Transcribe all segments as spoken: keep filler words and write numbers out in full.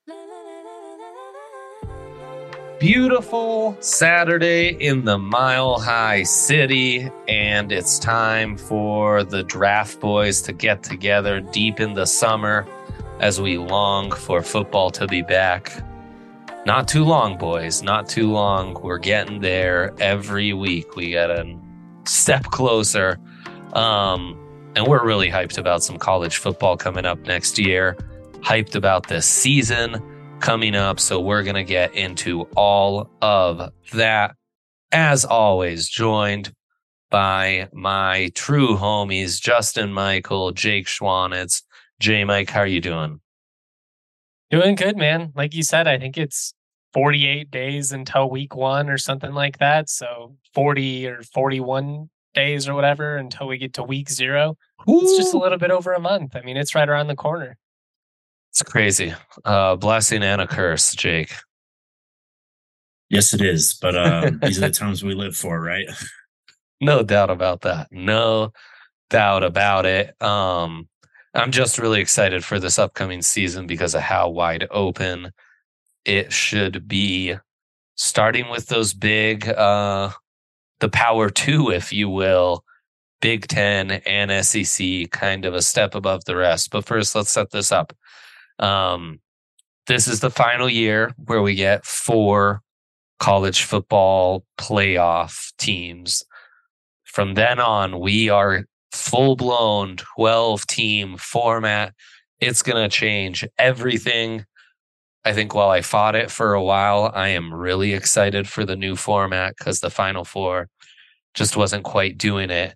Beautiful Saturday in the Mile High City, and it's time for the Draft Boys to get together deep in the summer as we long for football to be back. Not too long, boys, not too long. We're getting there every week. We get a step closer, um, and we're really hyped about some college football coming up next year, hyped about this season coming up, so we're going to get into all of that. As always, joined by my true homies, Justin Michael, Jake Schwanitz. J Mike, how are you doing? Doing good, man. Like you said, I think it's forty-eight days until week one or something like that. So forty or forty-one days or whatever until we get to week zero. Ooh. It's just a little bit over a month. I mean, it's right around the corner. It's crazy. Uh, blessing and a curse, Jake. Yes, it is. But uh, these are the times we live for, right? No doubt about that. No doubt about it. Um, I'm just really excited for this upcoming season because of how wide open it should be. Starting with those big, uh, the power two, if you will, Big Ten and S E C, kind of a step above the rest. But first, let's set this up. Um, this is the final year where we get four college football playoff teams. From then on, we are full-blown twelve-team format. It's going to change everything. I think while I fought it for a while, I am really excited for the new format because the Final Four just wasn't quite doing it.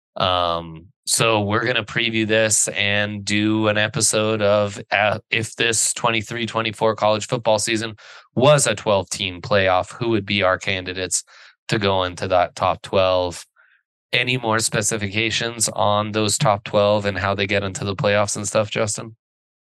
Um, so we're going to preview this and do an episode of uh, if this twenty-three twenty-four college football season was a twelve-team playoff, who would be our candidates to go into that top twelve? Any more specifications on those top twelve and how they get into the playoffs and stuff, Justin?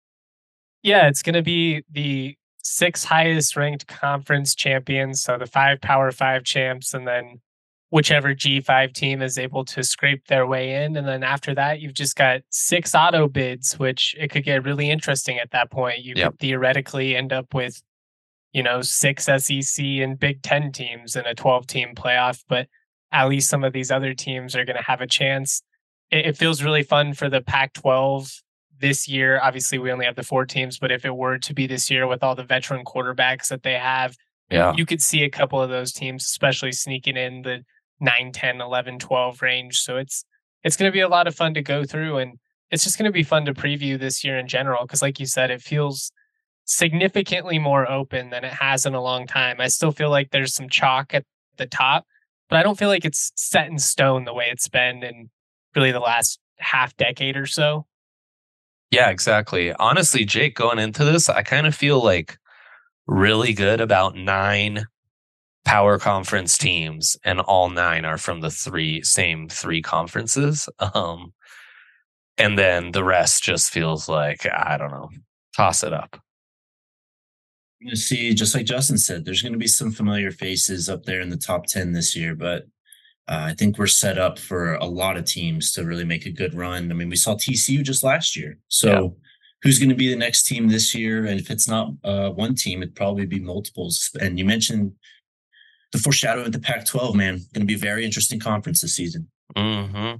Yeah, it's going to be the six highest ranked conference champions. So the five Power Five champs, and then whichever G five team is able to scrape their way in. And then after that, you've just got six auto bids, which it could get really interesting at that point. You yep. could theoretically end up with, you know, six S E C and Big Ten teams in a twelve-team playoff, but at least some of these other teams are going to have a chance. It, it feels really fun for the Pac twelve this year. Obviously, we only have the four teams, but if it were to be this year with all the veteran quarterbacks that they have, yeah. you could see a couple of those teams, especially sneaking in the nine, ten, eleven, twelve range. So it's it's going to be a lot of fun to go through, and it's just going to be fun to preview this year in general because, like you said, it feels significantly more open than it has in a long time. I still feel like there's some chalk at the top, but I don't feel like it's set in stone the way it's been in really the last half decade or so. Yeah, exactly. Honestly, Jake, going into this, I kind of feel like really good about nine power conference teams, and all nine are from the three same three conferences. Um, and then the rest just feels like, I don't know, toss it up. You're going to see, just like Justin said, there's going to be some familiar faces up there in the top ten this year, but uh, I think we're set up for a lot of teams to really make a good run. I mean, we saw T C U just last year. So yeah. Who's going to be the next team this year? And if it's not uh, one team, it'd probably be multiples. And you mentioned the foreshadowing of the Pac twelve, man. Going to be a very interesting conference this season. Mm-hmm.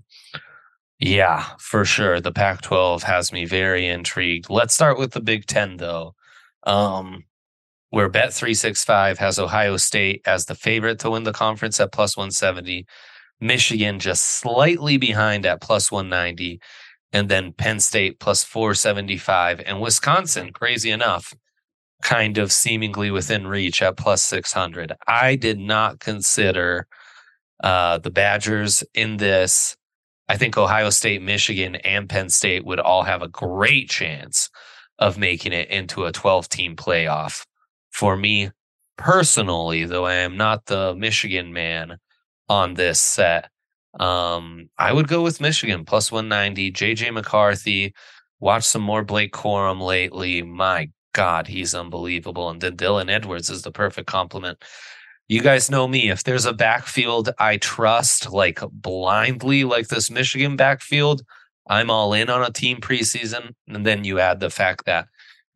Yeah, for sure. The Pac twelve has me very intrigued. Let's start with the Big Ten, though, um, where Bet three sixty-five has Ohio State as the favorite to win the conference at plus one seventy, Michigan just slightly behind at plus one ninety, and then Penn State plus four seventy-five, and Wisconsin, crazy enough, kind of seemingly within reach at plus six hundred. I did not consider uh, the Badgers in this. I think Ohio State, Michigan, and Penn State would all have a great chance of making it into a twelve-team playoff. For me personally, though I am not the Michigan man on this set, um, I would go with Michigan plus one ninety. J J McCarthy, watch some more Blake Corum lately. My God, he's unbelievable. And then Dylan Edwards is the perfect complement. You guys know me. If there's a backfield I trust like blindly, like this Michigan backfield, I'm all in on a team preseason. And then you add the fact that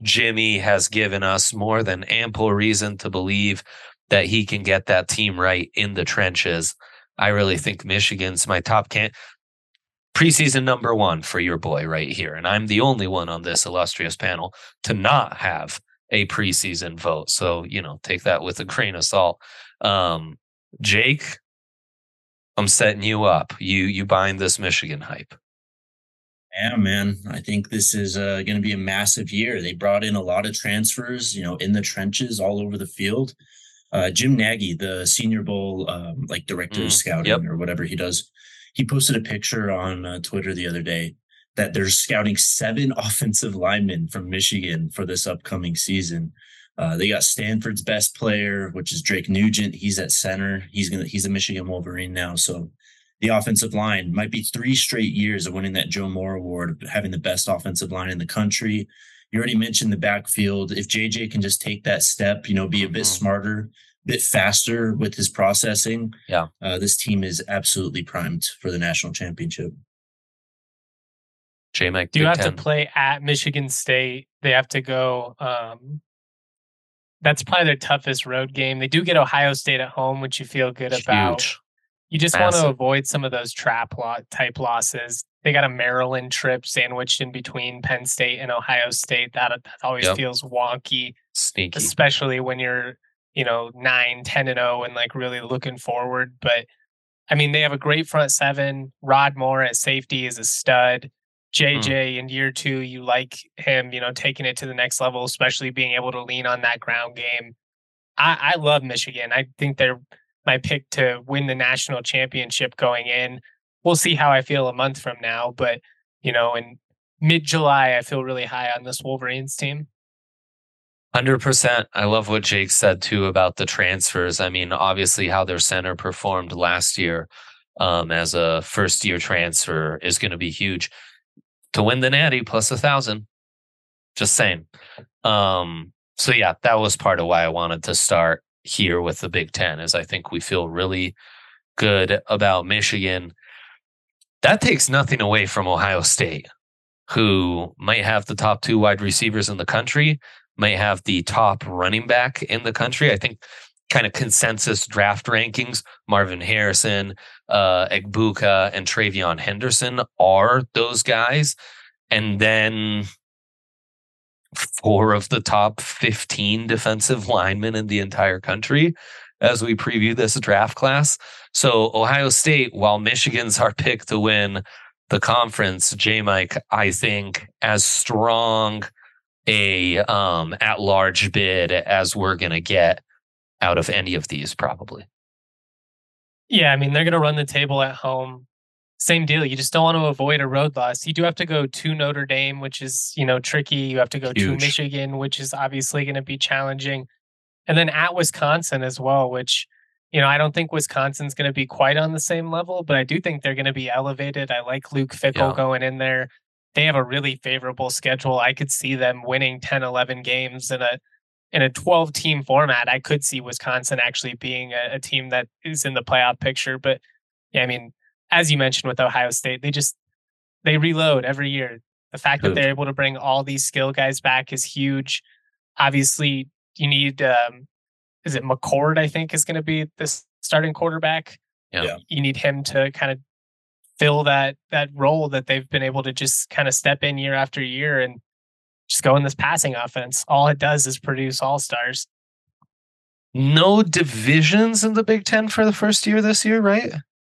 Jimmy has given us more than ample reason to believe that he can get that team right in the trenches. I really think Michigan's my top can preseason number one for your boy right here. And I'm the only one on this illustrious panel to not have a preseason vote. So, you know, take that with a grain of salt. Um, Jake, I'm setting you up. You you buying this Michigan hype? Yeah, man. I think this is uh, going to be a massive year. They brought in a lot of transfers, you know, in the trenches all over the field. Uh, Jim Nagy, the Senior Bowl, um, like director Mm, of scouting yep. or whatever he does, he posted a picture on uh, Twitter the other day that they're scouting seven offensive linemen from Michigan for this upcoming season. Uh, they got Stanford's best player, which is Drake Nugent. He's at center. He's gonna he's a Michigan Wolverine now. So the offensive line might be three straight years of winning that Joe Moore Award, of having the best offensive line in the country. You already mentioned the backfield. If J J can just take that step, you know, be a bit Mhm. smarter, a bit faster with his processing, Yeah. uh, this team is absolutely primed for the national championship. J Mike, Do you Big have Ten. to play at Michigan State? They have to go. Um, that's probably their toughest road game. They do get Ohio State at home, which you feel good about. Huge. You just want to Massive. avoid some of those trap lot type losses. They got a Maryland trip sandwiched in between Penn State and Ohio State. That, that always Yep. feels wonky, Sneaky. especially when you're, you know, nine, ten and oh and like really looking forward. But I mean, they have a great front seven. Rod Moore at safety is a stud. J J in year two, you like him, you know, taking it to the next level, especially being able to lean on that ground game. I, I love Michigan. I think they're my pick to win the national championship going in. We'll see how I feel a month from now, but you know, in mid-July, I feel really high on this Wolverines team. one hundred percent. I love what Jake said too about the transfers. I mean, obviously how their center performed last year um, as a first year transfer is going to be huge. To win the Natty plus a thousand. Just saying. Um, so yeah, that was part of why I wanted to start here with the Big Ten, is I think we feel really good about Michigan. That takes nothing away from Ohio State, who might have the top two wide receivers in the country, might have the top running back in the country. I think kind of consensus draft rankings, Marvin Harrison, uh, Egbuka, and Travion Henderson are those guys. And then four of the top fifteen defensive linemen in the entire country as we preview this draft class. So Ohio State, while Michigan's our pick to win the conference, J-Mike, I think as strong a um, at-large bid as we're going to get out of any of these, probably. Yeah, I mean, they're going to run the table at home. Same deal. You just don't want to avoid a road loss. You do have to go to Notre Dame, which is, you know, tricky. You have to go Huge. to Michigan, which is obviously going to be challenging. And then at Wisconsin as well, which, you know, I don't think Wisconsin's going to be quite on the same level, but I do think they're going to be elevated. I like Luke Fickle Yeah. going in there. They have a really favorable schedule. I could see them winning ten, eleven games in a in a twelve team format. I could see Wisconsin actually being a, a team that is in the playoff picture. But yeah, I mean, as you mentioned with Ohio State, they just they reload every year. The fact Good. that they're able to bring all these skill guys back is huge. Obviously, you need um, is it McCord? I think is going to be this starting quarterback. Yeah. Yeah. You need him to kind of fill that that role that they've been able to just kind of step in year after year and just go in this passing offense. All it does is produce all stars. No divisions in the Big Ten for the first year this year, right?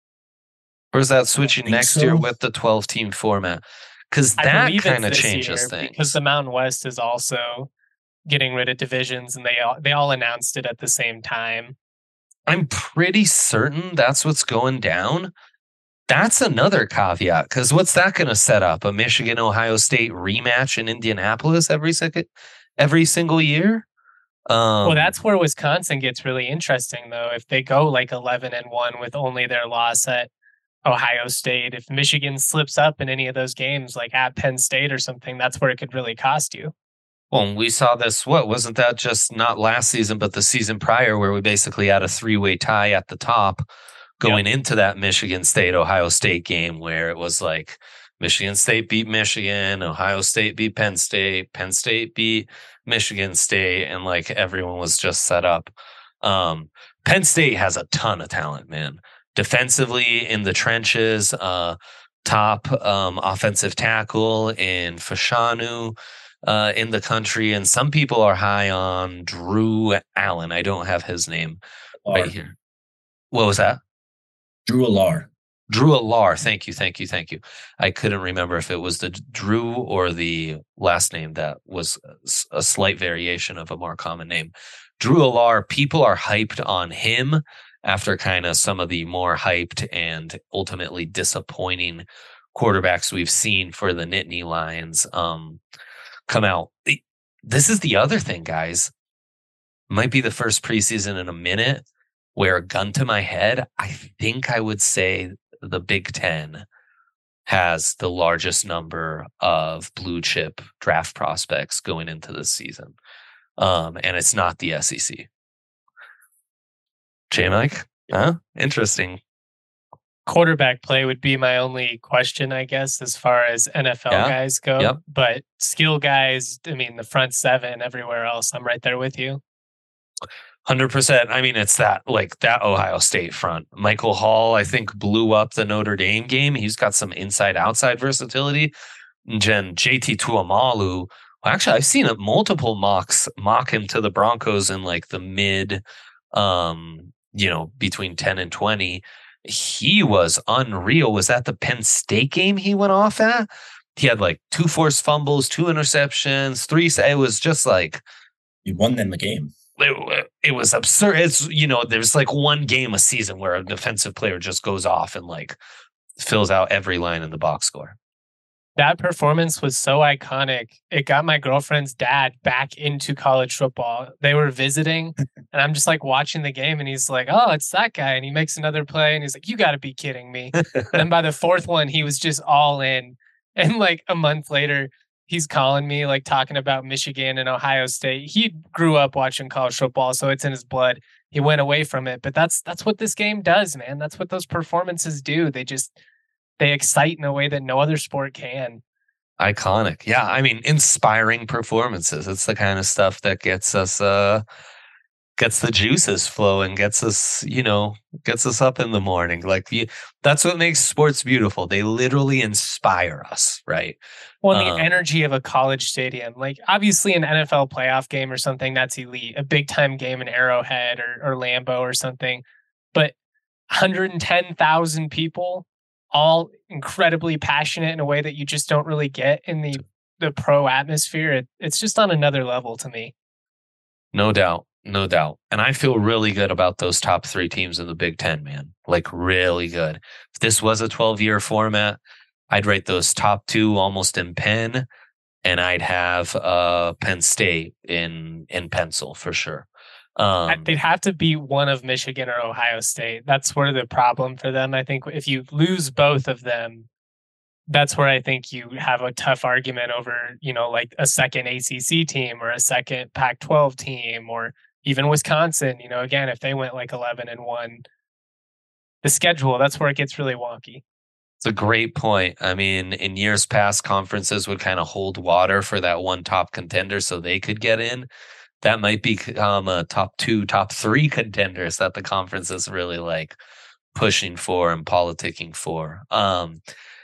Or is that switching think next so. year with the twelve team format? Because I that believe kind of it's this changes year things. because the Mountain West is also getting rid of divisions, and they all they all announced it at the same time. I'm pretty certain that's what's going down. That's another caveat, because what's that going to set up? A Michigan Ohio State rematch in Indianapolis every second, every single year? Um, Well, that's where Wisconsin gets really interesting, though. If they go like eleven and one with only their loss at Ohio State, if Michigan slips up in any of those games, like at Penn State or something, that's where it could really cost you. Well, we saw this, what, wasn't that just not last season, but the season prior, where we basically had a three-way tie at the top going into that Michigan State, Ohio State game, where it was like Michigan State beat Michigan, Ohio State beat Penn State, Penn State beat Michigan State, and like everyone was just set up. Um, Penn State has a ton of talent, man. Defensively in the trenches, uh, top um, offensive tackle in Fashanu uh, in the country, and some people are high on Drew Allen. I don't have his name right Or here. What was that? Drew Alar. Drew Alar. Thank you, thank you, thank you. I couldn't remember if it was the Drew or the last name that was a slight variation of a more common name. Drew Alar, people are hyped on him after kind of some of the more hyped and ultimately disappointing quarterbacks we've seen for the Nittany Lions um, come out. This is the other thing, guys. Might be the first preseason in a minute where, gun to my head, I think I would say the Big Ten has the largest number of blue chip draft prospects going into this season. Um, and it's not the S E C. J-Mike? Huh? Interesting. Quarterback play would be my only question, I guess, as far as N F L Yeah. guys go. Yep. But skill guys, I mean, the front seven, everywhere else, I'm right there with you. one hundred percent. I mean, it's that, like, that Ohio State front. Michael Hall, I think, blew up the Notre Dame game. He's got some inside-outside versatility. And then J T Tuamalu, well, actually, I've seen it, multiple mocks mock him to the Broncos in, like, the mid, um, you know, between ten and twenty. He was unreal. Was that the Penn State game he went off at? He had, like, two forced fumbles, two interceptions, three. It was just, like... He won them the game. It, it was absurd. It's, you know, there's like one game a season where a defensive player just goes off and like fills out every line in the box score. That performance was so iconic. It got my girlfriend's dad back into college football. They were visiting and I'm just like watching the game and he's like, oh, it's that guy. And he makes another play and he's like, you got to be kidding me. And then by the fourth one, he was just all in. And like a month later, he's calling me, like talking about Michigan and Ohio State. He grew up watching college football, so it's in his blood. He went away from it, but that's that's what this game does, man. That's what those performances do. They just they excite in a way that no other sport can. Iconic, yeah. I mean, inspiring performances. It's the kind of stuff that gets us, uh, gets the juices flowing, gets us, you know, gets us up in the morning. Like you, that's what makes sports beautiful. They literally inspire us, right? Well, the Um, energy of a college stadium, like obviously an N F L playoff game or something, that's elite. A big time game in Arrowhead or, or Lambeau or something. But one hundred ten thousand people, all incredibly passionate in a way that you just don't really get in the, the pro atmosphere. It, it's just on another level to me. No doubt. No doubt. And I feel really good about those top three teams in the Big Ten, man. Like really good. If this was a twelve-year format, I'd rate those top two almost in pen, and I'd have uh, Penn State in in pencil for sure. Um, They'd have to be one of Michigan or Ohio State. That's where the problem for them. I think if you lose both of them, that's where I think you have a tough argument over, you know, like a second A C C team or a second Pac twelve team or even Wisconsin. You know, again, if they went like eleven and one, the schedule, that's where it gets really wonky. It's a great point. I mean, in years past, conferences would kind of hold water for that one top contender so they could get in. That might become a top two, top three contenders that the conference is really like pushing for and politicking for. Um,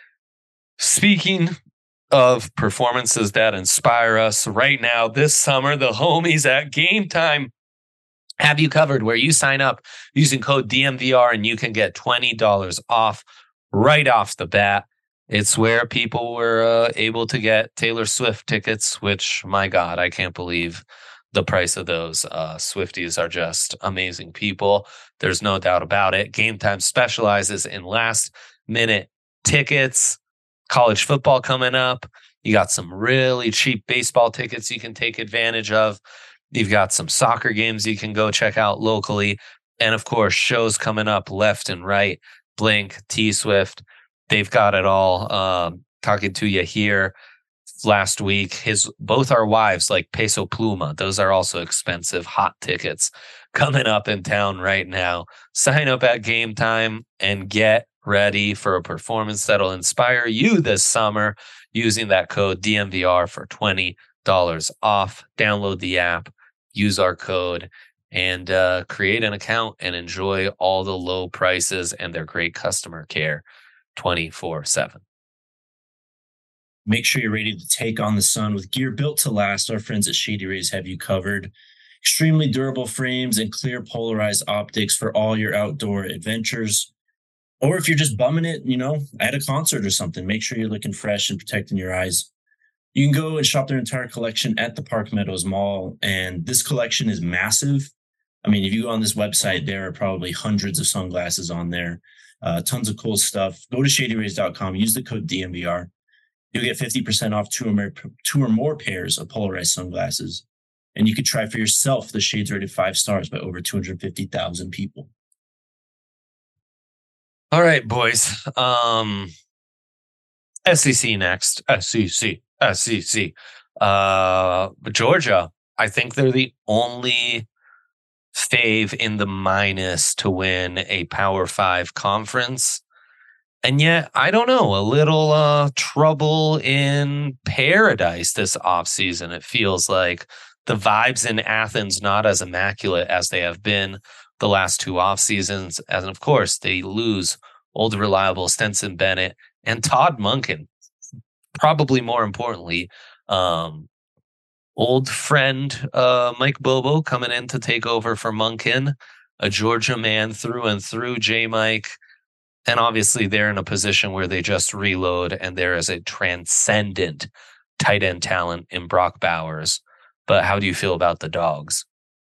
speaking of performances that inspire us right now, this summer, the homies at Game Time have you covered where you sign up using code D M V R and you can get twenty dollars off right off the bat. It's where people were uh, able to get Taylor Swift tickets, which, my God, I can't believe the price of those. Uh, Swifties are just amazing people. There's no doubt about it. Game Time specializes in last minute tickets. College football coming up. You got some really cheap baseball tickets you can take advantage of. You've got some soccer games you can go check out locally. And of course, shows coming up left and right. Blink, T-Swift, they've got it all. Um, talking to you here last week, his both our wives like Peso Pluma. Those are also expensive hot tickets coming up in town right now. Sign up at Game Time and get ready for a performance that'll inspire you this summer using that code D M V R for twenty dollars off. Download the app, use our code, and uh, create an account and enjoy all the low prices and their great customer care twenty-four seven. Make sure you're ready to take on the sun with gear built to last. Our friends at Shady Rays have you covered. Extremely durable frames and clear polarized optics for all your outdoor adventures. Or if you're just bumming it, you know, at a concert or something, make sure you're looking fresh and protecting your eyes. You can go and shop their entire collection at the Park Meadows Mall. And this collection is massive. I mean, if you go on this website, there are probably hundreds of sunglasses on there. Uh, tons of cool stuff. Go to shady rays dot com. Use the code D M V R. You'll get fifty percent off two or more, two or more pairs of polarized sunglasses. And you could try for yourself the shades rated five stars by over two hundred fifty thousand people. All right, boys. Um, S E C next. S E C. S E C. Uh, Georgia, I think they're the only fave in the minus to win a Power Five conference. And yet, I don't know, a little uh, trouble in paradise this offseason. It feels like the vibes in Athens not as immaculate as they have been the last two off seasons. And of course, they lose old reliable Stenson Bennett and Todd Monken. Probably more importantly, um, old friend uh, Mike Bobo coming in to take over for Monken, a Georgia man through and through, J. Mike. And obviously they're in a position where they just reload and there is a transcendent tight end talent in Brock Bowers. But how do you feel about the Dogs?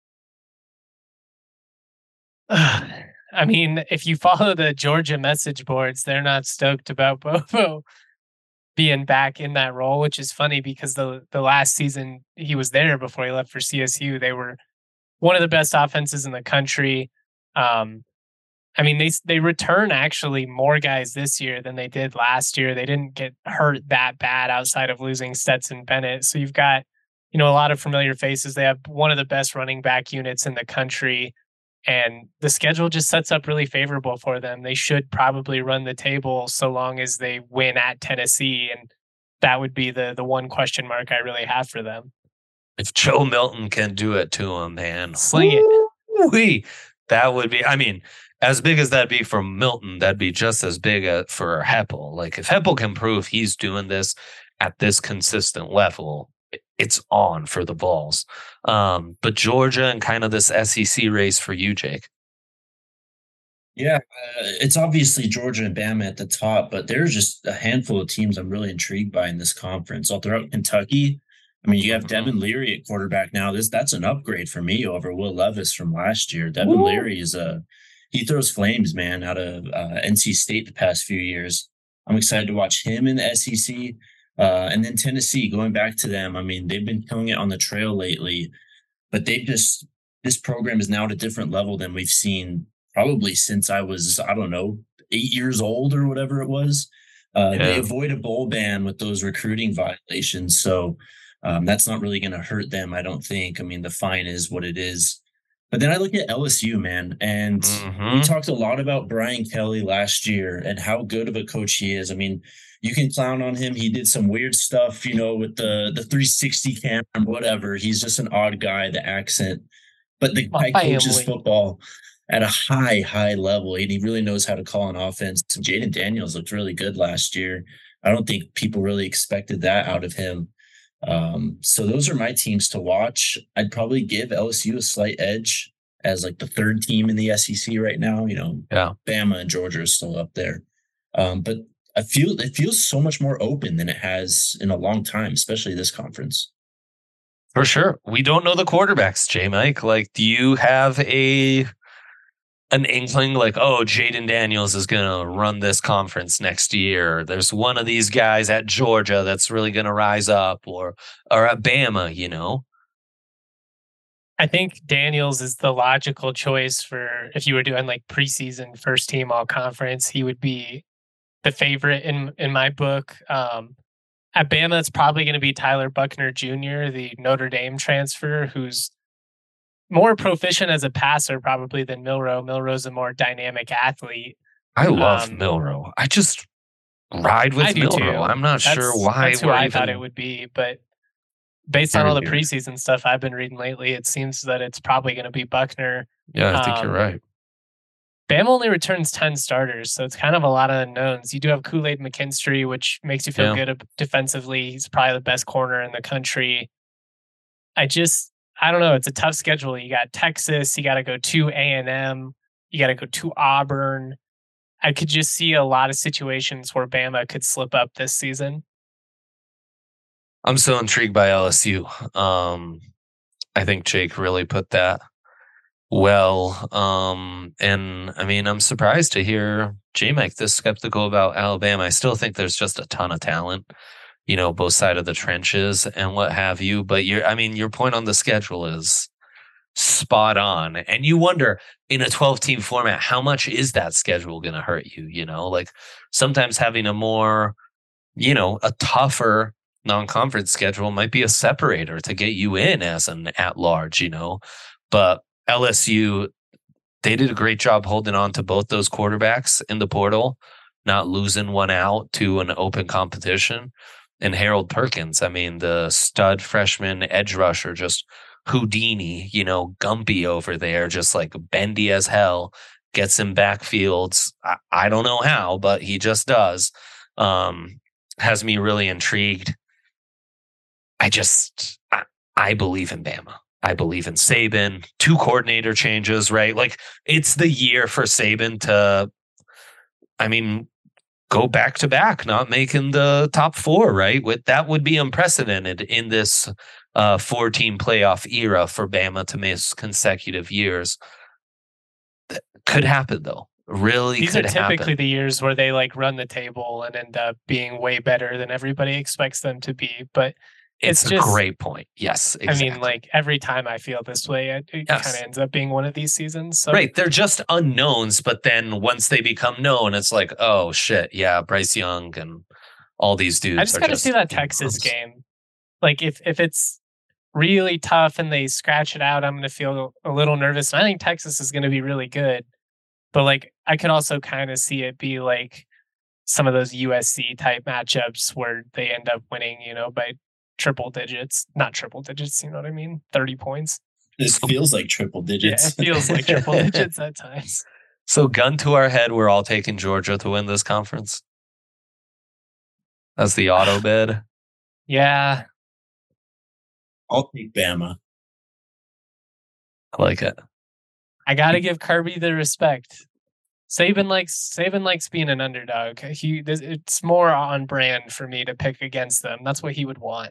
I mean, if you follow the Georgia message boards, they're not stoked about Bobo being back in that role, which is funny because the the last season he was there before he left for C S U. They were one of the best offenses in the country. Um, I mean, they they return actually more guys this year than they did last year. They didn't get hurt that bad outside of losing Stetson Bennett. So you've got, you know, a lot of familiar faces. They have one of the best running back units in the country. And the schedule just sets up really favorable for them. They should probably run the table so long as they win at Tennessee. And that would be the the one question mark I really have for them. If Joe Milton can do it to him, man. Sling it. Woo-wee. That would be, I mean, as big as that'd be for Milton, that'd be just as big a, for Heppel. Like if Heppel can prove he's doing this at this consistent level, it's on for the Vols. Um, but Georgia and kind of this S E C race for you, Jake. Yeah, uh, it's obviously Georgia and Bama at the top, but there's just a handful of teams I'm really intrigued by in this conference. All throughout Kentucky, I mean, you have mm-hmm. Devin Leary at quarterback now. This that's an upgrade for me over Will Levis from last year. Devin Ooh. Leary is a he throws flames, man, out of uh, N C State the past few years. I'm excited to watch him in the S E C. Uh, and then Tennessee, going back to them, I mean, they've been killing it on the trail lately, but they've just, this program is now at a different level than we've seen probably since I was, I don't know, eight years old or whatever it was. Uh, yeah. They avoid a bowl ban with those recruiting violations. So um, that's not really going to hurt them, I don't think. I mean, the fine is what it is. But then I look at L S U, man, and mm-hmm. we talked a lot about Brian Kelly last year and how good of a coach he is. I mean, you can clown on him. He did some weird stuff, you know, with the, the three sixty camera, whatever. He's just an odd guy, the accent. But the guy coaches football at a high, high level, and he really knows how to call an offense. Jaden Daniels looked really good last year. I don't think people really expected that out of him. Um, so those are my teams to watch. I'd probably give L S U a slight edge as like the third team in the S E C right now. You know, yeah. Bama and Georgia are still up there. Um, but I feel it feels so much more open than it has in a long time, especially this conference. For sure. We don't know the quarterbacks, J. Mike. Like, do you have a an inkling like, oh, Jaden Daniels is going to run this conference next year? There's one of these guys at Georgia that's really going to rise up, or or at Bama, you know? I think Daniels is the logical choice for if you were doing like preseason first team all conference. He would be the favorite in in my book. Um, at Bama, it's probably going to be Tyler Buckner Junior, the Notre Dame transfer, who's more proficient as a passer probably than Milroe. Milroe's a more dynamic athlete, I love Um, Milrow. I just ride with I do too. Milrow. I'm not That's, sure why that's who we're I even thought it would be, but based on very all the weird. preseason stuff I've been reading lately, it seems that it's probably going to be Buckner. Yeah, I think Um, you're right. Bama only returns ten starters, so it's kind of a lot of unknowns. You do have Kool-Aid McKinstry, which makes you feel Yeah. good defensively. He's probably the best corner in the country. I just, I don't know. It's a tough schedule. You got Texas. You got to go to A and M. You got to go to Auburn. I could just see a lot of situations where Bama could slip up this season. I'm so intrigued by L S U. Um, I think Jake really put that well. Um, and I mean, I'm surprised to hear J-Mike this skeptical about Alabama. I still think there's just a ton of talent, you know, both sides of the trenches and what have you. But you're, I mean, your point on the schedule is spot on. And you wonder in a twelve team format, how much is that schedule going to hurt you? You know, like sometimes having a more, you know, a tougher non-conference schedule might be a separator to get you in as an at-large, you know. But L S U, they did a great job holding on to both those quarterbacks in the portal, not losing one out to an open competition. And Harold Perkins, I mean, the stud freshman edge rusher, just Houdini, you know, Gumpy over there, just like bendy as hell, gets in backfields. I, I don't know how, but he just does. Um, has me really intrigued. I just, I, I believe in Bama. I believe in Saban. Two coordinator changes, right? Like it's the year for Saban to, I mean, go back to back, not making the top four, right? With that would be unprecedented in this uh, four-team playoff era for Bama to miss consecutive years. That could happen, though. Really, these are could typically happen. the years where they like run the table and end up being way better than everybody expects them to be. But It's, it's a just, great point. Yes, exactly. I mean, like every time I feel this way, it, it Yes. kind of ends up being one of these seasons. So Right. They're just unknowns, but then once they become known, it's like, oh shit, yeah, Bryce Young and all these dudes. I just are got to just see that Texas unknowns. game. Like if if it's really tough and they scratch it out, I'm going to feel a little nervous. And I think Texas is going to be really good. But like I could also kind of see it be like some of those U S C type matchups where they end up winning, you know, by triple digits, not triple digits, you know what I mean? thirty points. This feels like triple digits. Yeah, it feels like triple digits at times. So, gun to our head, we're all taking Georgia to win this conference. That's the auto bid. Yeah. I'll take Bama. I like it. I got to give Kirby the respect. Saban likes Saban likes being an underdog. He it's more on brand for me to pick against them. That's what he would want.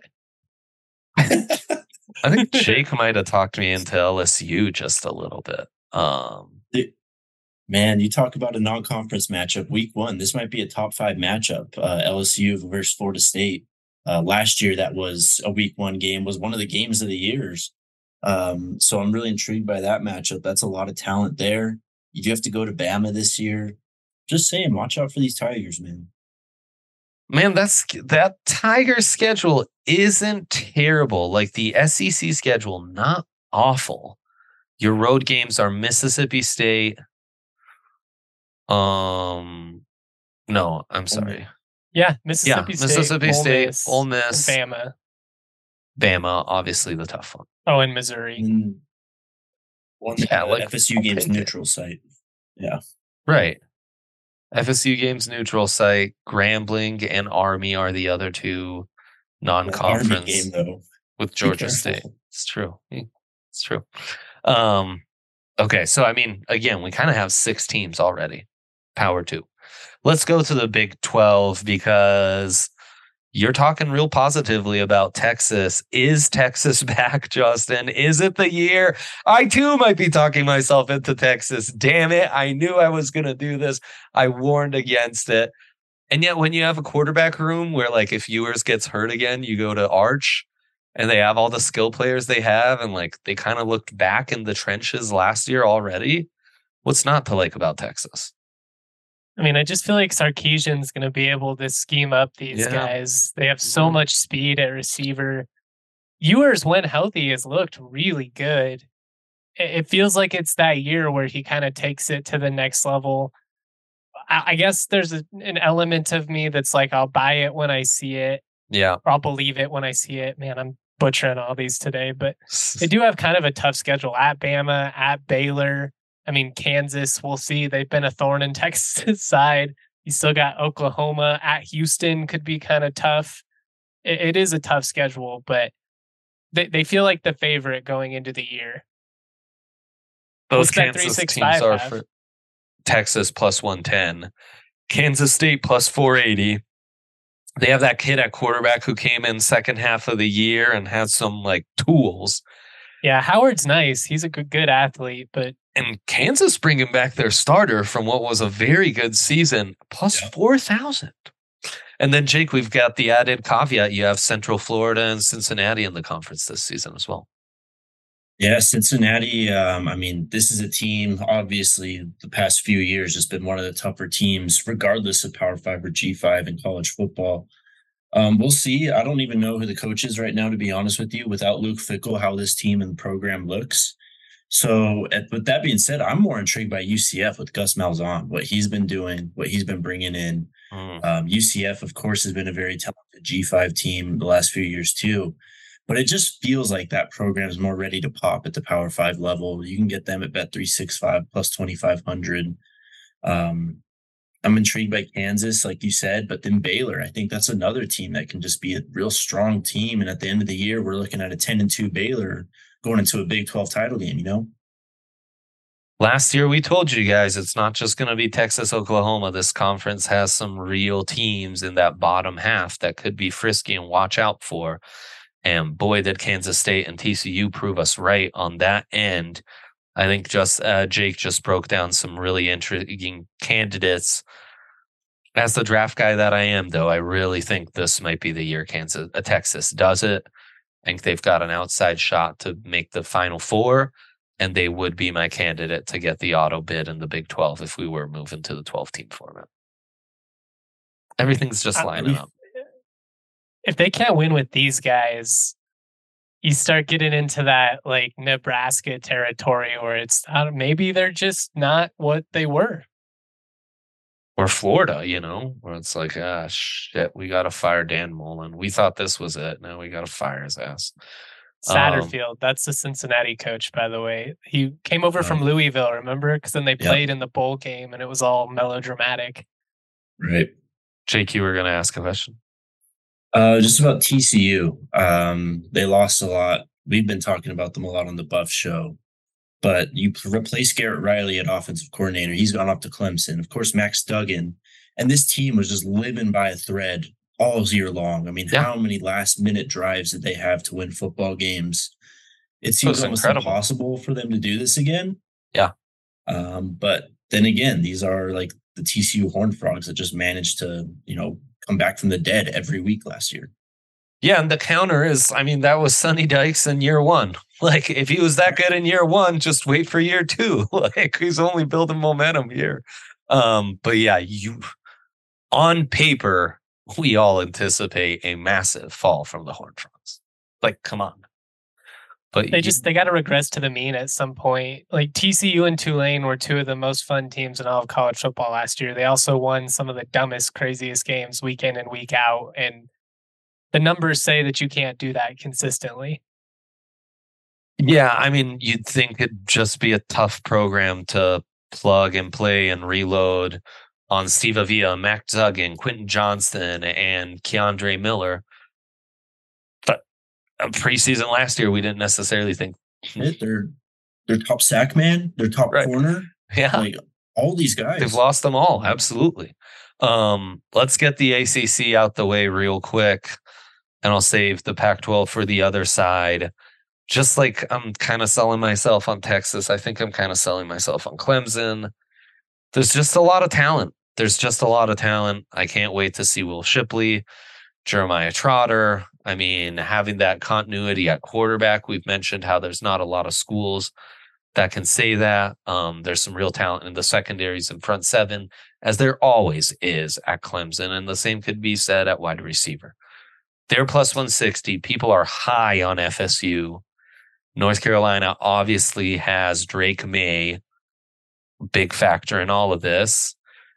I think Jake might have talked me into L S U just a little bit. Um, Man, you talk about a non-conference matchup. Week one, this might be a top five matchup. Uh, L S U versus Florida State. Uh, last year, that was a week one game. Was one of the games of the years. Um, so I'm really intrigued by that matchup. That's a lot of talent there. You do have to go to Bama this year. Just saying, watch out for these Tigers, man. Man, that's that Tiger schedule isn't terrible. Like the S E C schedule, not awful. Your road games are Mississippi State. Um, no, I'm sorry. Yeah, Mississippi yeah, State, Mississippi Ole State, Miss, Ole Miss, Bama. Bama, obviously the tough one. Oh, and Missouri. And one Yeah, uh, like, F S U I'll games take it. neutral site. Yeah. Right. F S U games neutral site. Grambling and Army are the other two non-conference Army game though with Be Georgia careful. State. It's true. It's true. Um, okay, so I mean, again, we kind of have six teams already. Power two. Let's go to the Big twelve because you're talking real positively about Texas. Is Texas back, Justin? Is it the year? I too might be talking myself into Texas. Damn it. I knew I was going to do this. I warned against it. And yet when you have a quarterback room where like if Ewers gets hurt again, you go to Arch and they have all the skill players they have and like they kind of looked back in the trenches last year already. What's not to like about Texas? I mean, I just feel like Sarkisian's going to be able to scheme up these Yeah. guys. They have so Mhm. much speed at receiver. Ewers, when healthy, has looked really good. It it feels like it's that year where he kind of takes it to the next level. I, I guess there's a, an element of me that's like, I'll buy it when I see it. Yeah. Or I'll believe it when I see it. Man, I'm butchering all these today, but they do have kind of a tough schedule at Bama, at Baylor. I mean, Kansas, we'll see. They've been a thorn in Texas' side. You still got Oklahoma at Houston, could be kind of tough. It, it is a tough schedule, but they, they feel like the favorite going into the year. Both Kansas teams are for Texas plus one ten, Kansas State plus four eighty. They have that kid at quarterback who came in second half of the year and had some like tools. Yeah, Howard's nice. He's a good, good athlete, but and Kansas bringing back their starter from what was a very good season, plus yeah. four thousand. And then, Jake, we've got the added caveat. You have Central Florida and Cincinnati in the conference this season as well. Yeah, Cincinnati, um, I mean, this is a team, obviously, the past few years has been one of the tougher teams, regardless of Power five or G five in college football. Um, we'll see. I don't even know who the coach is right now, to be honest with you, without Luke Fickell, how this team and the program looks. So at, with that being said, I'm more intrigued by U C F with Gus Malzahn, what he's been doing, what he's been bringing in. Mm. Um, U C F, of course, has been a very talented G five team the last few years too. But it just feels like that program is more ready to pop at the Power Five level. You can get them at Bet three sixty-five plus twenty-five hundred. Um, I'm intrigued by Kansas, like you said, but then Baylor. I think that's another team that can just be a real strong team. And at the end of the year, we're looking at a ten and two Baylor going into a Big twelve title game, you know? Last year, we told you guys it's not just going to be Texas, Oklahoma. This conference has some real teams in that bottom half that could be frisky and watch out for. And boy, did Kansas State and T C U prove us right on that end. I think just uh, Jake just broke down some really intriguing candidates. As the draft guy that I am, though, I really think this might be the year Kansas, uh, Texas does it. I think they've got an outside shot to make the Final Four, and they would be my candidate to get the auto bid in the Big twelve if we were moving to the twelve-team format. Everything's just lining up. If they can't win with these guys, you start getting into that like Nebraska territory where it's uh, maybe they're just not what they were. Or Florida, you know, where it's like, ah, shit, we got to fire Dan Mullen. We thought this was it. Now we got to fire his ass. Satterfield, um, that's the Cincinnati coach, by the way. He came over from Louisville, remember? Because then they played yep. in the bowl game and it was all melodramatic. Right. Jake, you were going to ask a question? Uh, just about T C U. Um, they lost a lot. We've been talking about them a lot on the Buff Show. But you replace Garrett Riley at offensive coordinator. He's gone off to Clemson. Of course, Max Duggan. And this team was just living by a thread all year long. I mean, yeah. how many last-minute drives did they have to win football games? It seems almost incredible. impossible for them to do this again. Yeah. Um, but then again, these are like the T C U Horned Frogs that just managed to, you know, come back from the dead every week last year. Yeah, and the counter is, I mean, that was Sonny Dykes in year one. Like, if he was that good in year one, just wait for year two. Like, he's only building momentum here. Um, but yeah, you on paper, we all anticipate a massive fall from the Horned Frogs. Like, come on. But they you, just they got to regress to the mean at some point. Like T C U and Tulane were two of the most fun teams in all of college football last year. They also won some of the dumbest, craziest games week in and week out. And the numbers say that you can't do that consistently. Yeah, I mean, you'd think it'd just be a tough program to plug and play and reload on Steve Avila, Mac Duggan, Quentin Johnston, and Keandre Miller. Preseason last year, we didn't necessarily think they're they're top sack man, they're top right. corner. Yeah, like all these guys, they've lost them all. Absolutely. Um, let's get the A C C out the way real quick, and I'll save the Pac twelve for the other side. Just like I'm kind of selling myself on Texas, I think I'm kind of selling myself on Clemson. There's just a lot of talent. There's just a lot of talent. I can't wait to see Will Shipley, Jeremiah Trotter. I mean, having that continuity at quarterback, we've mentioned how there's not a lot of schools that can say that. Um, there's some real talent in the secondaries and front seven, as there always is at Clemson. And the same could be said at wide receiver. They're plus one sixty. People are high on F S U. North Carolina obviously has Drake May, big factor in all of this.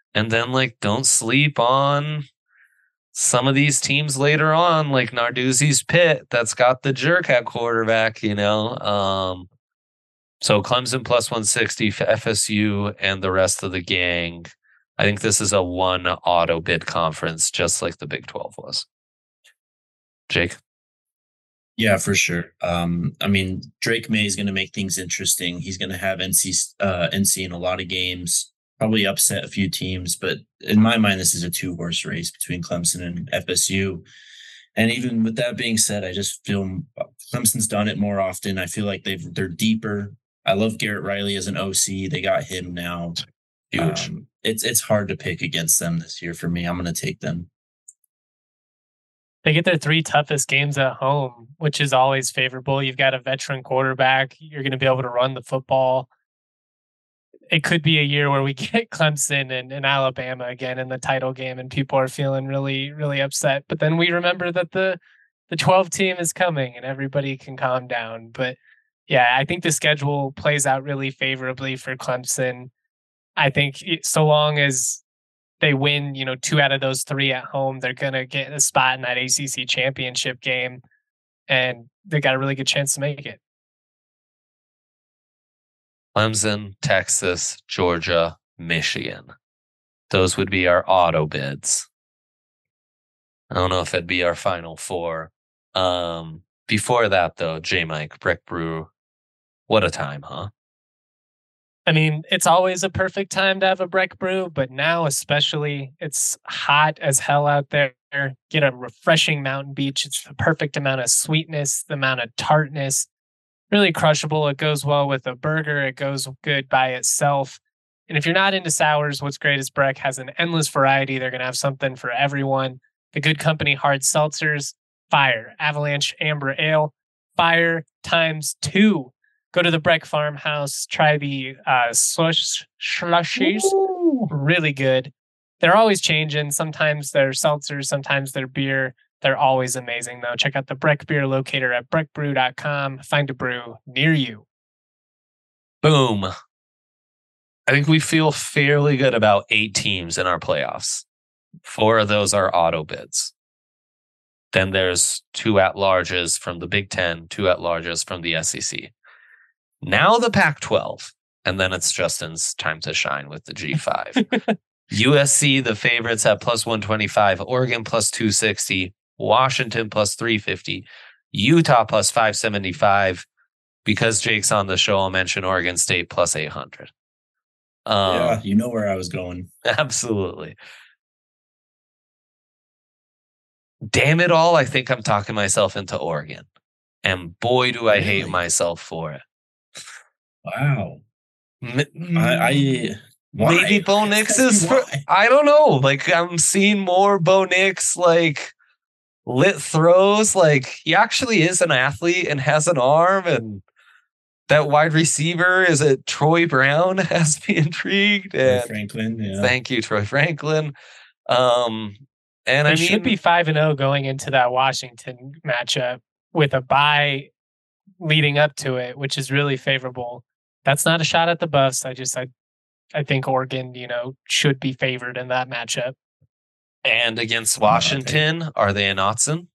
And then, like, don't sleep on some of these teams later on, like Narduzzi's Pitt, that's got the jerk at quarterback, you know? Um, so Clemson plus one sixty for F S U and the rest of the gang. I think this is a one auto bid conference, just like the Big twelve was. Jake? Yeah, for sure. Um, I mean, Drake May is going to make things interesting. He's going to have N C uh, N C in a lot of games, probably upset a few teams. But in my mind, this is a two horse race between Clemson and F S U. And even with that being said, I just feel Clemson's done it more often. I feel like they've they're deeper. I love Garrett Riley as an O C. They got him now. Huge. Um, it's it's hard to pick against them this year for me. I'm going to take them. They get their three toughest games at home, which is always favorable. You've got a veteran quarterback. You're going to be able to run the football. It could be a year where we get Clemson and, and Alabama again in the title game, and people are feeling really, really upset. But then we remember that the the twelve team is coming, and everybody can calm down. But yeah, I think the schedule plays out really favorably for Clemson. I think it, so long as they win, you know, two out of those three at home, they're going to get a spot in that A C C championship game, and they got a really good chance to make it. Clemson, Texas, Georgia, Michigan. Those would be our auto bids. I don't know if it'd be our final four. Um, before that, though, J-Mike, Breck Brew, what a time, huh? I mean, it's always a perfect time to have a Breck Brew, but now especially, it's hot as hell out there. Get a refreshing Mountain Beach. It's the perfect amount of sweetness, the amount of tartness. Really crushable. It goes well with a burger. It goes good by itself. And if you're not into sours, what's great is Breck has an endless variety. They're going to have something for everyone. The Good Company hard seltzers, fire. Avalanche Amber Ale, fire times two. Go to the Breck Farmhouse. Try the uh, slush slushies. Ooh. Really good. They're always changing. Sometimes they're seltzers. Sometimes they're beer. They're always amazing, though. Check out the Breck Beer Locator at breck brew dot com. Find a brew near you. Boom. I think we feel fairly good about eight teams in our playoffs. Four of those are auto bids. Then there's two at-larges from the Big Ten, two at-larges from the S E C. Now the Pac twelve. And then it's Justin's time to shine with the G five. U S C, the favorites at plus one twenty-five. Oregon plus two sixty. Washington plus three fifty, Utah plus five seventy-five. Because Jake's on the show, I'll mention Oregon State plus eight hundred. Um, yeah, you know where I was going. Absolutely. Damn it all, I think I'm talking myself into Oregon. And boy, do I really? hate myself for it. Wow. M- I... I... Why? Maybe Bo Nix is for, I don't know. Like, I'm seeing more Bo Nix, like, lit throws. Like, he actually is an athlete and has an arm. And that wide receiver, is it Troy Brown, has me intrigued. And Troy Franklin, yeah. Thank you, Troy Franklin. Um, and they I mean, should be five and oh going into that Washington matchup with a bye leading up to it, which is really favorable. That's not a shot at the Buffs. I just, I, I think Oregon, you know, should be favored in that matchup. And against Washington, oh, are they in Autzen?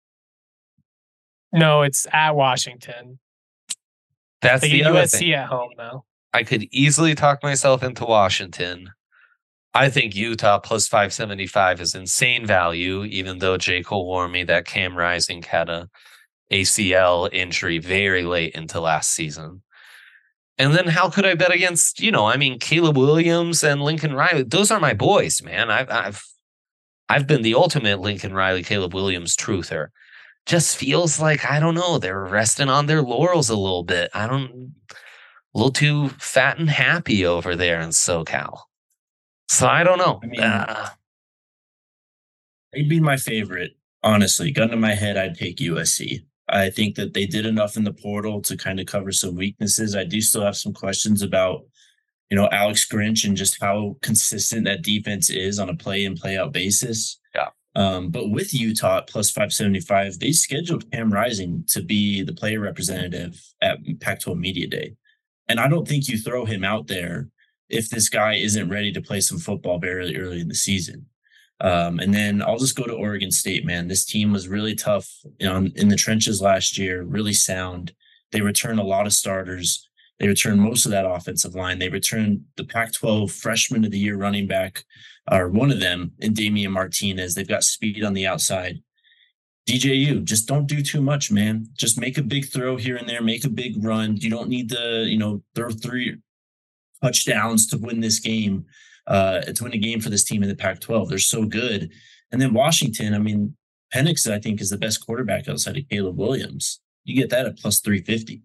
No, it's at Washington. That's they the get other U S C thing. At home, though. I could easily talk myself into Washington. I think Utah plus five seventy-five is insane value, even though Jake will warn me that Cam Rising had a A C L injury very late into last season. And then how could I bet against, you know, I mean, Caleb Williams and Lincoln Riley? Those are my boys, man. I've I've I've been the ultimate Lincoln Riley, Caleb Williams truther. Just feels like, I don't know, they're resting on their laurels a little bit. I don't, a little too fat and happy over there in SoCal. So I don't know. I mean, uh, they'd be my favorite. Honestly, gun to my head, I'd take U S C. I think that they did enough in the portal to kind of cover some weaknesses. I do still have some questions about, you know, Alex Grinch and just how consistent that defense is on a play in, play out basis. Yeah. Um, but with Utah at plus five seventy-five, they scheduled Cam Rising to be the player representative at Pac twelve Media Day. And I don't think you throw him out there if this guy isn't ready to play some football very early in the season. Um, and then I'll just go to Oregon State, man. This team was really tough, you know, in the trenches last year, really sound. They returned a lot of starters. They returned most of that offensive line. They returned the Pac twelve freshman of the year running back, or one of them, in Damian Martinez. They've got speed on the outside. D J U, just don't do too much, man. Just make a big throw here and there, make a big run. You don't need to, you know, throw three touchdowns to win this game. Uh, to win a game for this team in the Pac twelve. They're so good. And then Washington, I mean, Penix, I think, is the best quarterback outside of Caleb Williams. You get that at plus three fifty.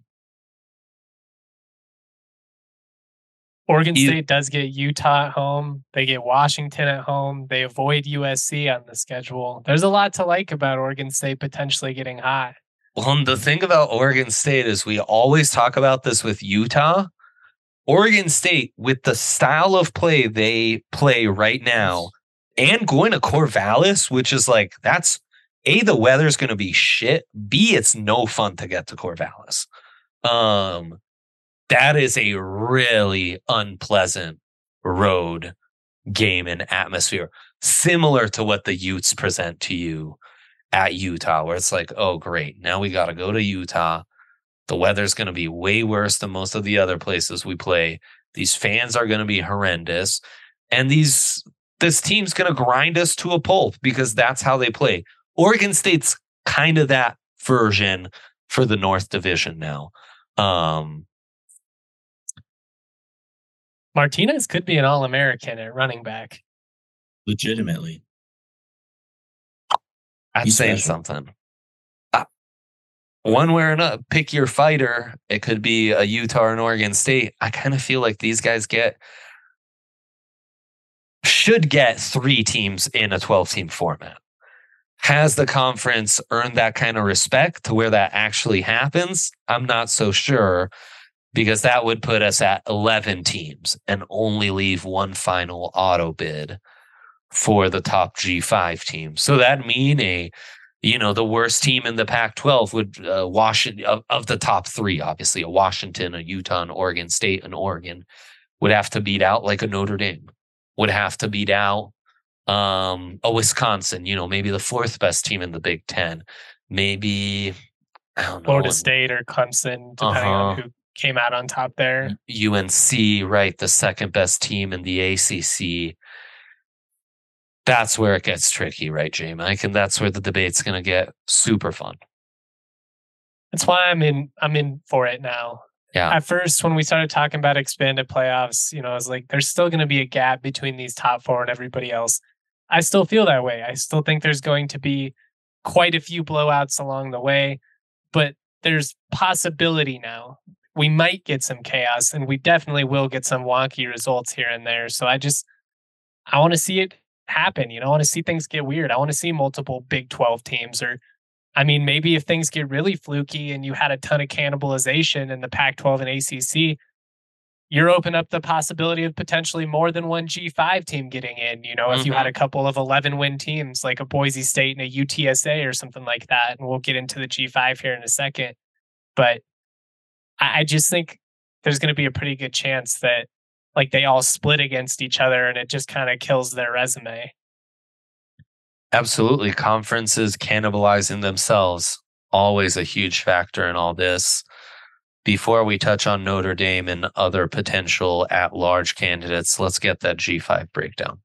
Oregon State does get Utah at home. They get Washington at home. They avoid U S C on the schedule. There's a lot to like about Oregon State potentially getting hot. Well, and the thing about Oregon State is we always talk about this with Utah. Oregon State, with the style of play they play right now, and going to Corvallis, which is like, that's A, the weather's going to be shit. B, it's no fun to get to Corvallis. Um, that is a really unpleasant road game and atmosphere, similar to what the Utes present to you at Utah, where it's like, oh, great, now we got to go to Utah. The weather's going to be way worse than most of the other places we play. These fans are going to be horrendous. And these this team's going to grind us to a pulp because that's how they play. Oregon State's kind of that version for the North Division now. Um, Martinez could be an All-American at running back. Legitimately. That's He's saying special. something. One way or another, pick your fighter. It could be a Utah or an Oregon State. I kind of feel like these guys get should get three teams in a twelve-team format. Has the conference earned that kind of respect to where that actually happens? I'm not so sure, because that would put us at eleven teams and only leave one final auto bid for the top G five team. So that mean a You know, the worst team in the Pac twelve would uh, Washington of, of the top three, obviously a Washington, a Utah, an Oregon State, and Oregon would have to beat out like a Notre Dame, would have to beat out um, a Wisconsin, you know, maybe the fourth best team in the Big Ten, maybe, I don't know. Florida State or Clemson, depending uh-huh. on who came out on top there. U N C, right, the second best team in the A C C. That's where it gets tricky, right, J Mike? And that's where the debate's going to get super fun. That's why I'm in. I'm in for it now. Yeah. At first, when we started talking about expanded playoffs, you know, I was like, there's still going to be a gap between these top four and everybody else. I still feel that way. I still think there's going to be quite a few blowouts along the way, but there's possibility now. We might get some chaos, and we definitely will get some wonky results here and there. So I just, I want to see it happen. You know, I want to see things get weird. I want to see multiple Big twelve teams, or I mean, maybe if things get really fluky and you had a ton of cannibalization in the Pac twelve and A C C, you're open up the possibility of potentially more than one G five team getting in. You know, mm-hmm. if you had a couple of eleven win teams like a Boise State and a U T S A or something like that, and we'll get into the G five here in a second. But I, I just think there's going to be a pretty good chance that like they all split against each other and it just kind of kills their resume. Absolutely. Conferences cannibalizing themselves. Always a huge factor in all this. Before we touch on Notre Dame and other potential at-large candidates, let's get that G five breakdown.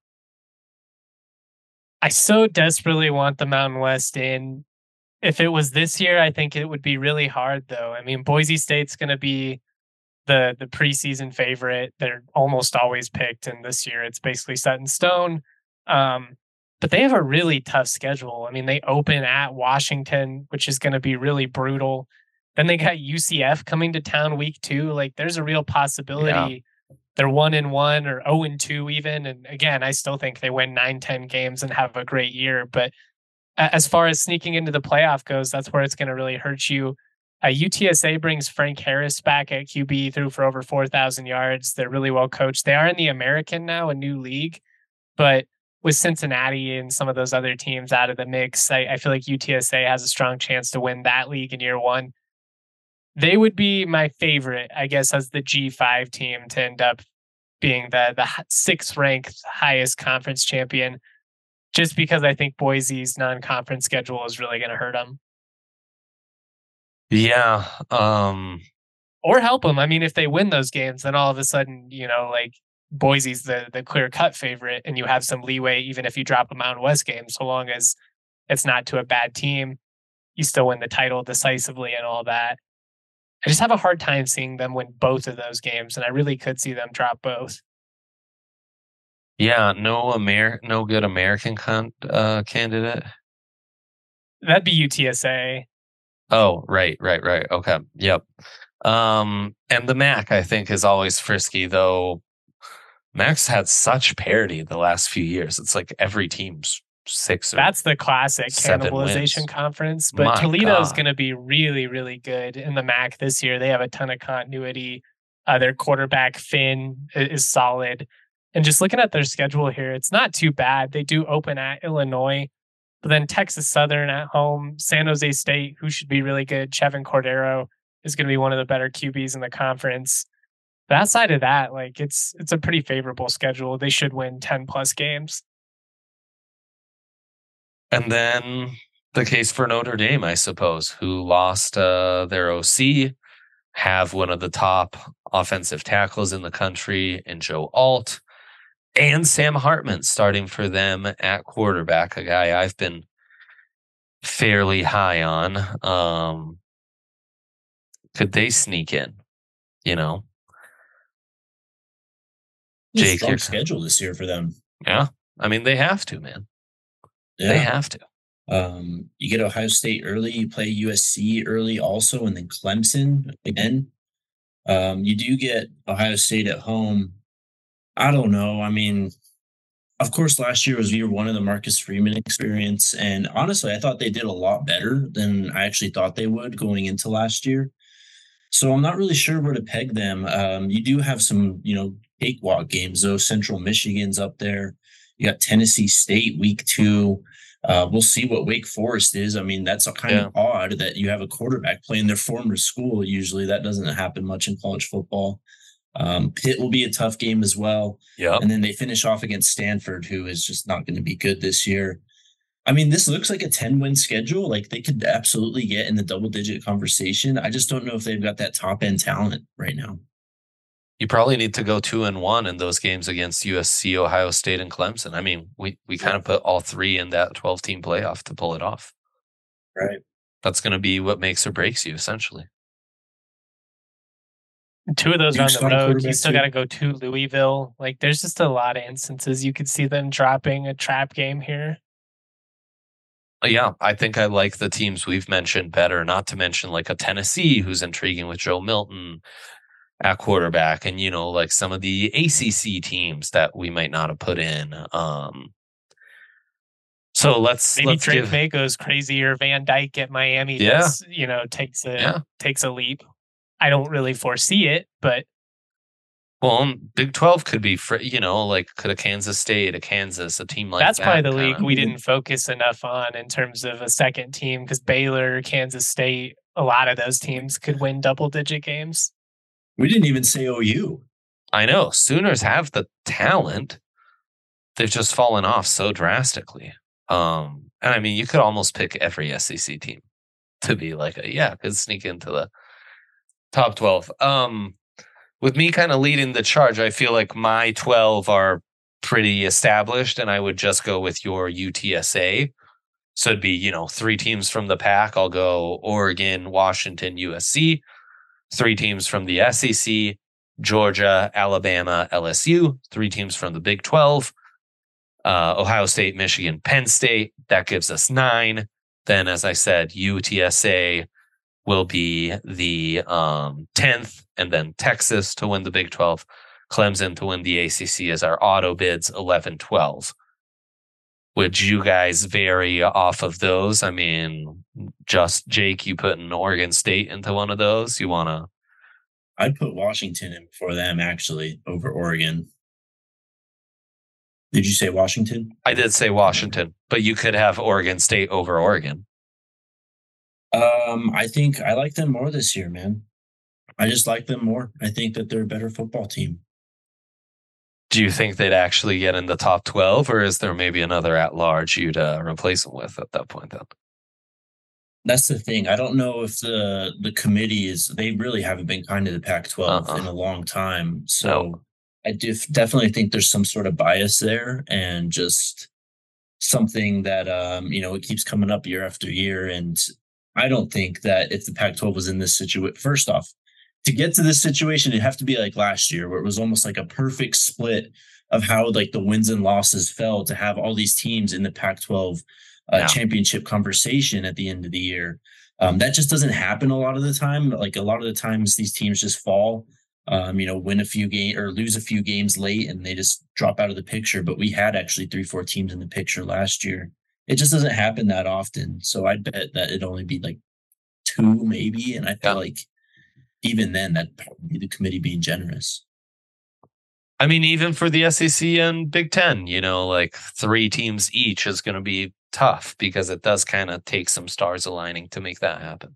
I so desperately want the Mountain West in. If it was this year, I think it would be really hard, though. I mean, Boise State's going to be the the preseason favorite. They're almost always picked, and this year it's basically set in stone. Um, but they have a really tough schedule. I mean, they open at Washington, which is going to be really brutal. Then they got U C F coming to town week two. Like, there's a real possibility yeah. they're one and one or zero and two even. And again, I still think they win nine, ten games and have a great year. But as far as sneaking into the playoff goes, that's where it's going to really hurt you. Uh, U T S A brings Frank Harris back at Q B, threw for over four thousand yards. They're really well coached. They are in the American now, a new league. But with Cincinnati and some of those other teams out of the mix, I, I feel like U T S A has a strong chance to win that league in year one. They would be my favorite, I guess, as the G five team to end up being the the sixth ranked highest conference champion, just because I think Boise's non-conference schedule is really going to hurt them. Yeah. Um, or help them. I mean, if they win those games, then all of a sudden, you know, like Boise's the the clear cut favorite, and you have some leeway even if you drop a Mountain West game, so long as it's not to a bad team, you still win the title decisively and all that. I just have a hard time seeing them win both of those games, and I really could see them drop both. Yeah, no Amer, no good American con- uh, candidate. That'd be U T S A. Oh, right, right, right. Okay, yep. Um, and the M A C, I think, is always frisky, though. M A C's had such parity the last few years. It's like every team's six or That's the classic cannibalization wins. conference. But My Toledo's God. going to be really, really good in the M A C this year. They have a ton of continuity. Uh, their quarterback, Finn, i- is solid. And just looking at their schedule here, it's not too bad. They do open at Illinois, but then Texas Southern at home, San Jose State, who should be really good. Chevin Cordero is going to be one of the better Q Bs in the conference. But outside of that, like it's it's a pretty favorable schedule. They should win ten plus games. And then the case for Notre Dame, I suppose, who lost uh, their O C, have one of the top offensive tackles in the country in Joe Alt, and Sam Hartman starting for them at quarterback, a guy I've been fairly high on. Um, could they sneak in? You know, It's a Jake, strong you're- schedule this year for them. yeah. I mean, they have to, man. Yeah. They have to. Um, you get Ohio State early, you play U S C early also, and then Clemson again. Um, you do get Ohio State at home. I don't know. I mean, of course, last year was year one of the Marcus Freeman experience. And honestly, I thought they did a lot better than I actually thought they would going into last year. So I'm not really sure where to peg them. Um, you do have some, you know, cakewalk games, though. Central Michigan's up there. You got Tennessee State week two. Uh, we'll see what Wake Forest is. I mean, that's kind Yeah. of odd that you have a quarterback playing their former school. Usually that doesn't happen much in college football. Um, Pitt will be a tough game as well. Yep. And then they finish off against Stanford, who is just not going to be good this year. I mean, this looks like a ten-win schedule. Like they could absolutely get in the double-digit conversation. I just don't know if they've got that top-end talent right now. You probably need to go two and one in those games against U S C, Ohio State, and Clemson. I mean, we, we kind of put all three in that twelve team playoff to pull it off. Right. That's going to be what makes or breaks you, essentially. Two of those are on Duke's the got a road. You quarterback, still too. got to go to Louisville. Like, there's just a lot of instances you could see them dropping a trap game here. Yeah, I think I like the teams we've mentioned better, not to mention like a Tennessee who's intriguing with Joe Milton at quarterback, and, you know, like some of the A C C teams that we might not have put in. Um, so let's Maybe let's Drake give, May goes crazy, or Van Dyke at Miami. Yeah. Does, you know, takes a Yeah. takes a leap. I don't really foresee it, but well, um, Big twelve could be, fr- you know, like could a Kansas State, a Kansas, a team like that's that. probably the kinda- league we didn't focus enough on in terms of a second team, because Baylor, Kansas State, a lot of those teams could win double digit games. We didn't even say O U. I know Sooners have the talent. They've just fallen off so drastically. Um, and I mean, you could almost pick every S E C team to be like, a, yeah, could sneak into the top twelve. Um, with me kind of leading the charge, I feel like my twelve are pretty established, and I would just go with your U T S A. So it'd be, you know, three teams from the pack. I'll go Oregon, Washington, U S C. Three teams from the S E C, Georgia, Alabama, L S U. Three teams from the Big twelve, uh, Ohio State, Michigan, Penn State. That gives us nine. Then, as I said, U T S A will be the um, tenth, and then Texas to win the Big twelve, Clemson to win the A C C as our auto bids, eleven, twelve. Would you guys vary off of those? I mean, just Jake, you put an Oregon State into one of those. You want to? I'd put Washington in before them, actually, over Oregon. Did you say Washington? I did say Washington, but you could have Oregon State over Oregon. Um, I think I like them more this year, man. I just like them more. I think that they're a better football team. Do you think they'd actually get in the top twelve, or is there maybe another at-large you'd uh, replace them with at that point then? That's the thing. I don't know if the the committee is they really haven't been kind to the Pac twelve in Uh-uh. a long time. No. So I def- definitely think there's some sort of bias there and just something that um, you know, it keeps coming up year after year. And I don't think that if the Pac twelve was in this situation, first off, to get to this situation, it'd have to be like last year, where it was almost like a perfect split of how like the wins and losses fell to have all these teams in the Pac twelve uh, Yeah. championship conversation at the end of the year. Um, that just doesn't happen a lot of the time. Like a lot of the times, these teams just fall. Um, you know, win a few games or lose a few games late, and they just drop out of the picture. But we had actually three, four teams in the picture last year. It just doesn't happen that often. So I'd bet that it'd only be like two, maybe. And I feel Yeah. like even then, that'd probably be the committee being generous. I mean, even for the S E C and Big Ten, you know, like three teams each is going to be tough because it does kind of take some stars aligning to make that happen.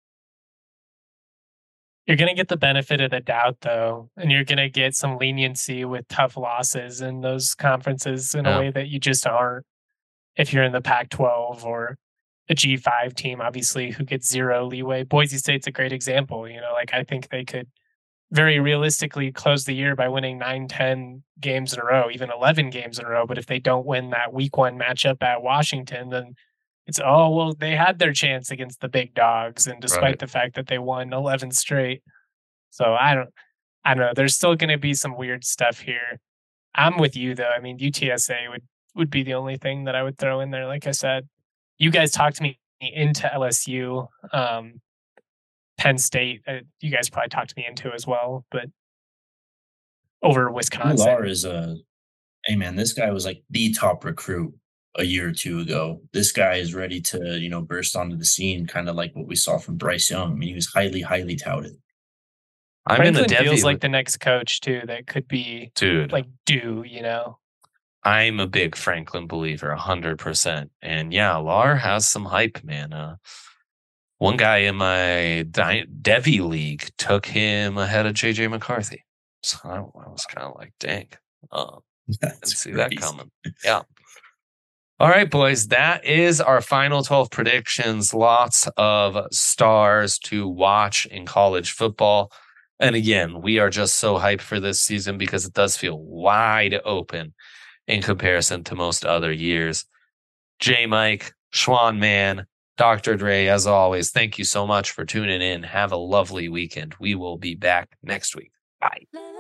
You're going to get the benefit of the doubt, though, and you're going to get some leniency with tough losses in those conferences in Yeah. a way that you just aren't if you're in the Pac twelve or a G five team, obviously, who gets zero leeway. Boise State's a great example. You know, like I think they could very realistically close the year by winning nine, ten games in a row, even eleven games in a row. But if they don't win that week one matchup at Washington, then it's, oh, well, they had their chance against the big dogs. And despite Right. the fact that they won eleven straight. So I don't, I don't know. There's still going to be some weird stuff here. I'm with you, though. I mean, U T S A would, would be the only thing that I would throw in there. Like I said, you guys talked me into L S U. Um, Penn State, uh, you guys probably talked me into as well, but over Wisconsin. Lar is a, hey man, this guy was like the top recruit a year or two ago. This guy is ready to, you know, burst onto the scene, kind of like what we saw from Bryce Young. I mean, he was highly, highly touted. I'm in a Franklin feels Devi like with- the next coach too that could be dude. like due, you know. I'm a big Franklin believer, a hundred percent. And yeah, Lar has some hype, man. Uh, one guy in my Di- Devi league took him ahead of J J McCarthy. So I, I was kind of like, dang, uh, didn't That's see that crazy. coming. Yeah. All right, boys, that is our final twelve predictions. Lots of stars to watch in college football. And again, we are just so hyped for this season because it does feel wide open in comparison to most other years. J Mike, Schwan Man, Doctor Dre, as always, thank you so much for tuning in. Have a lovely weekend. We will be back next week. Bye.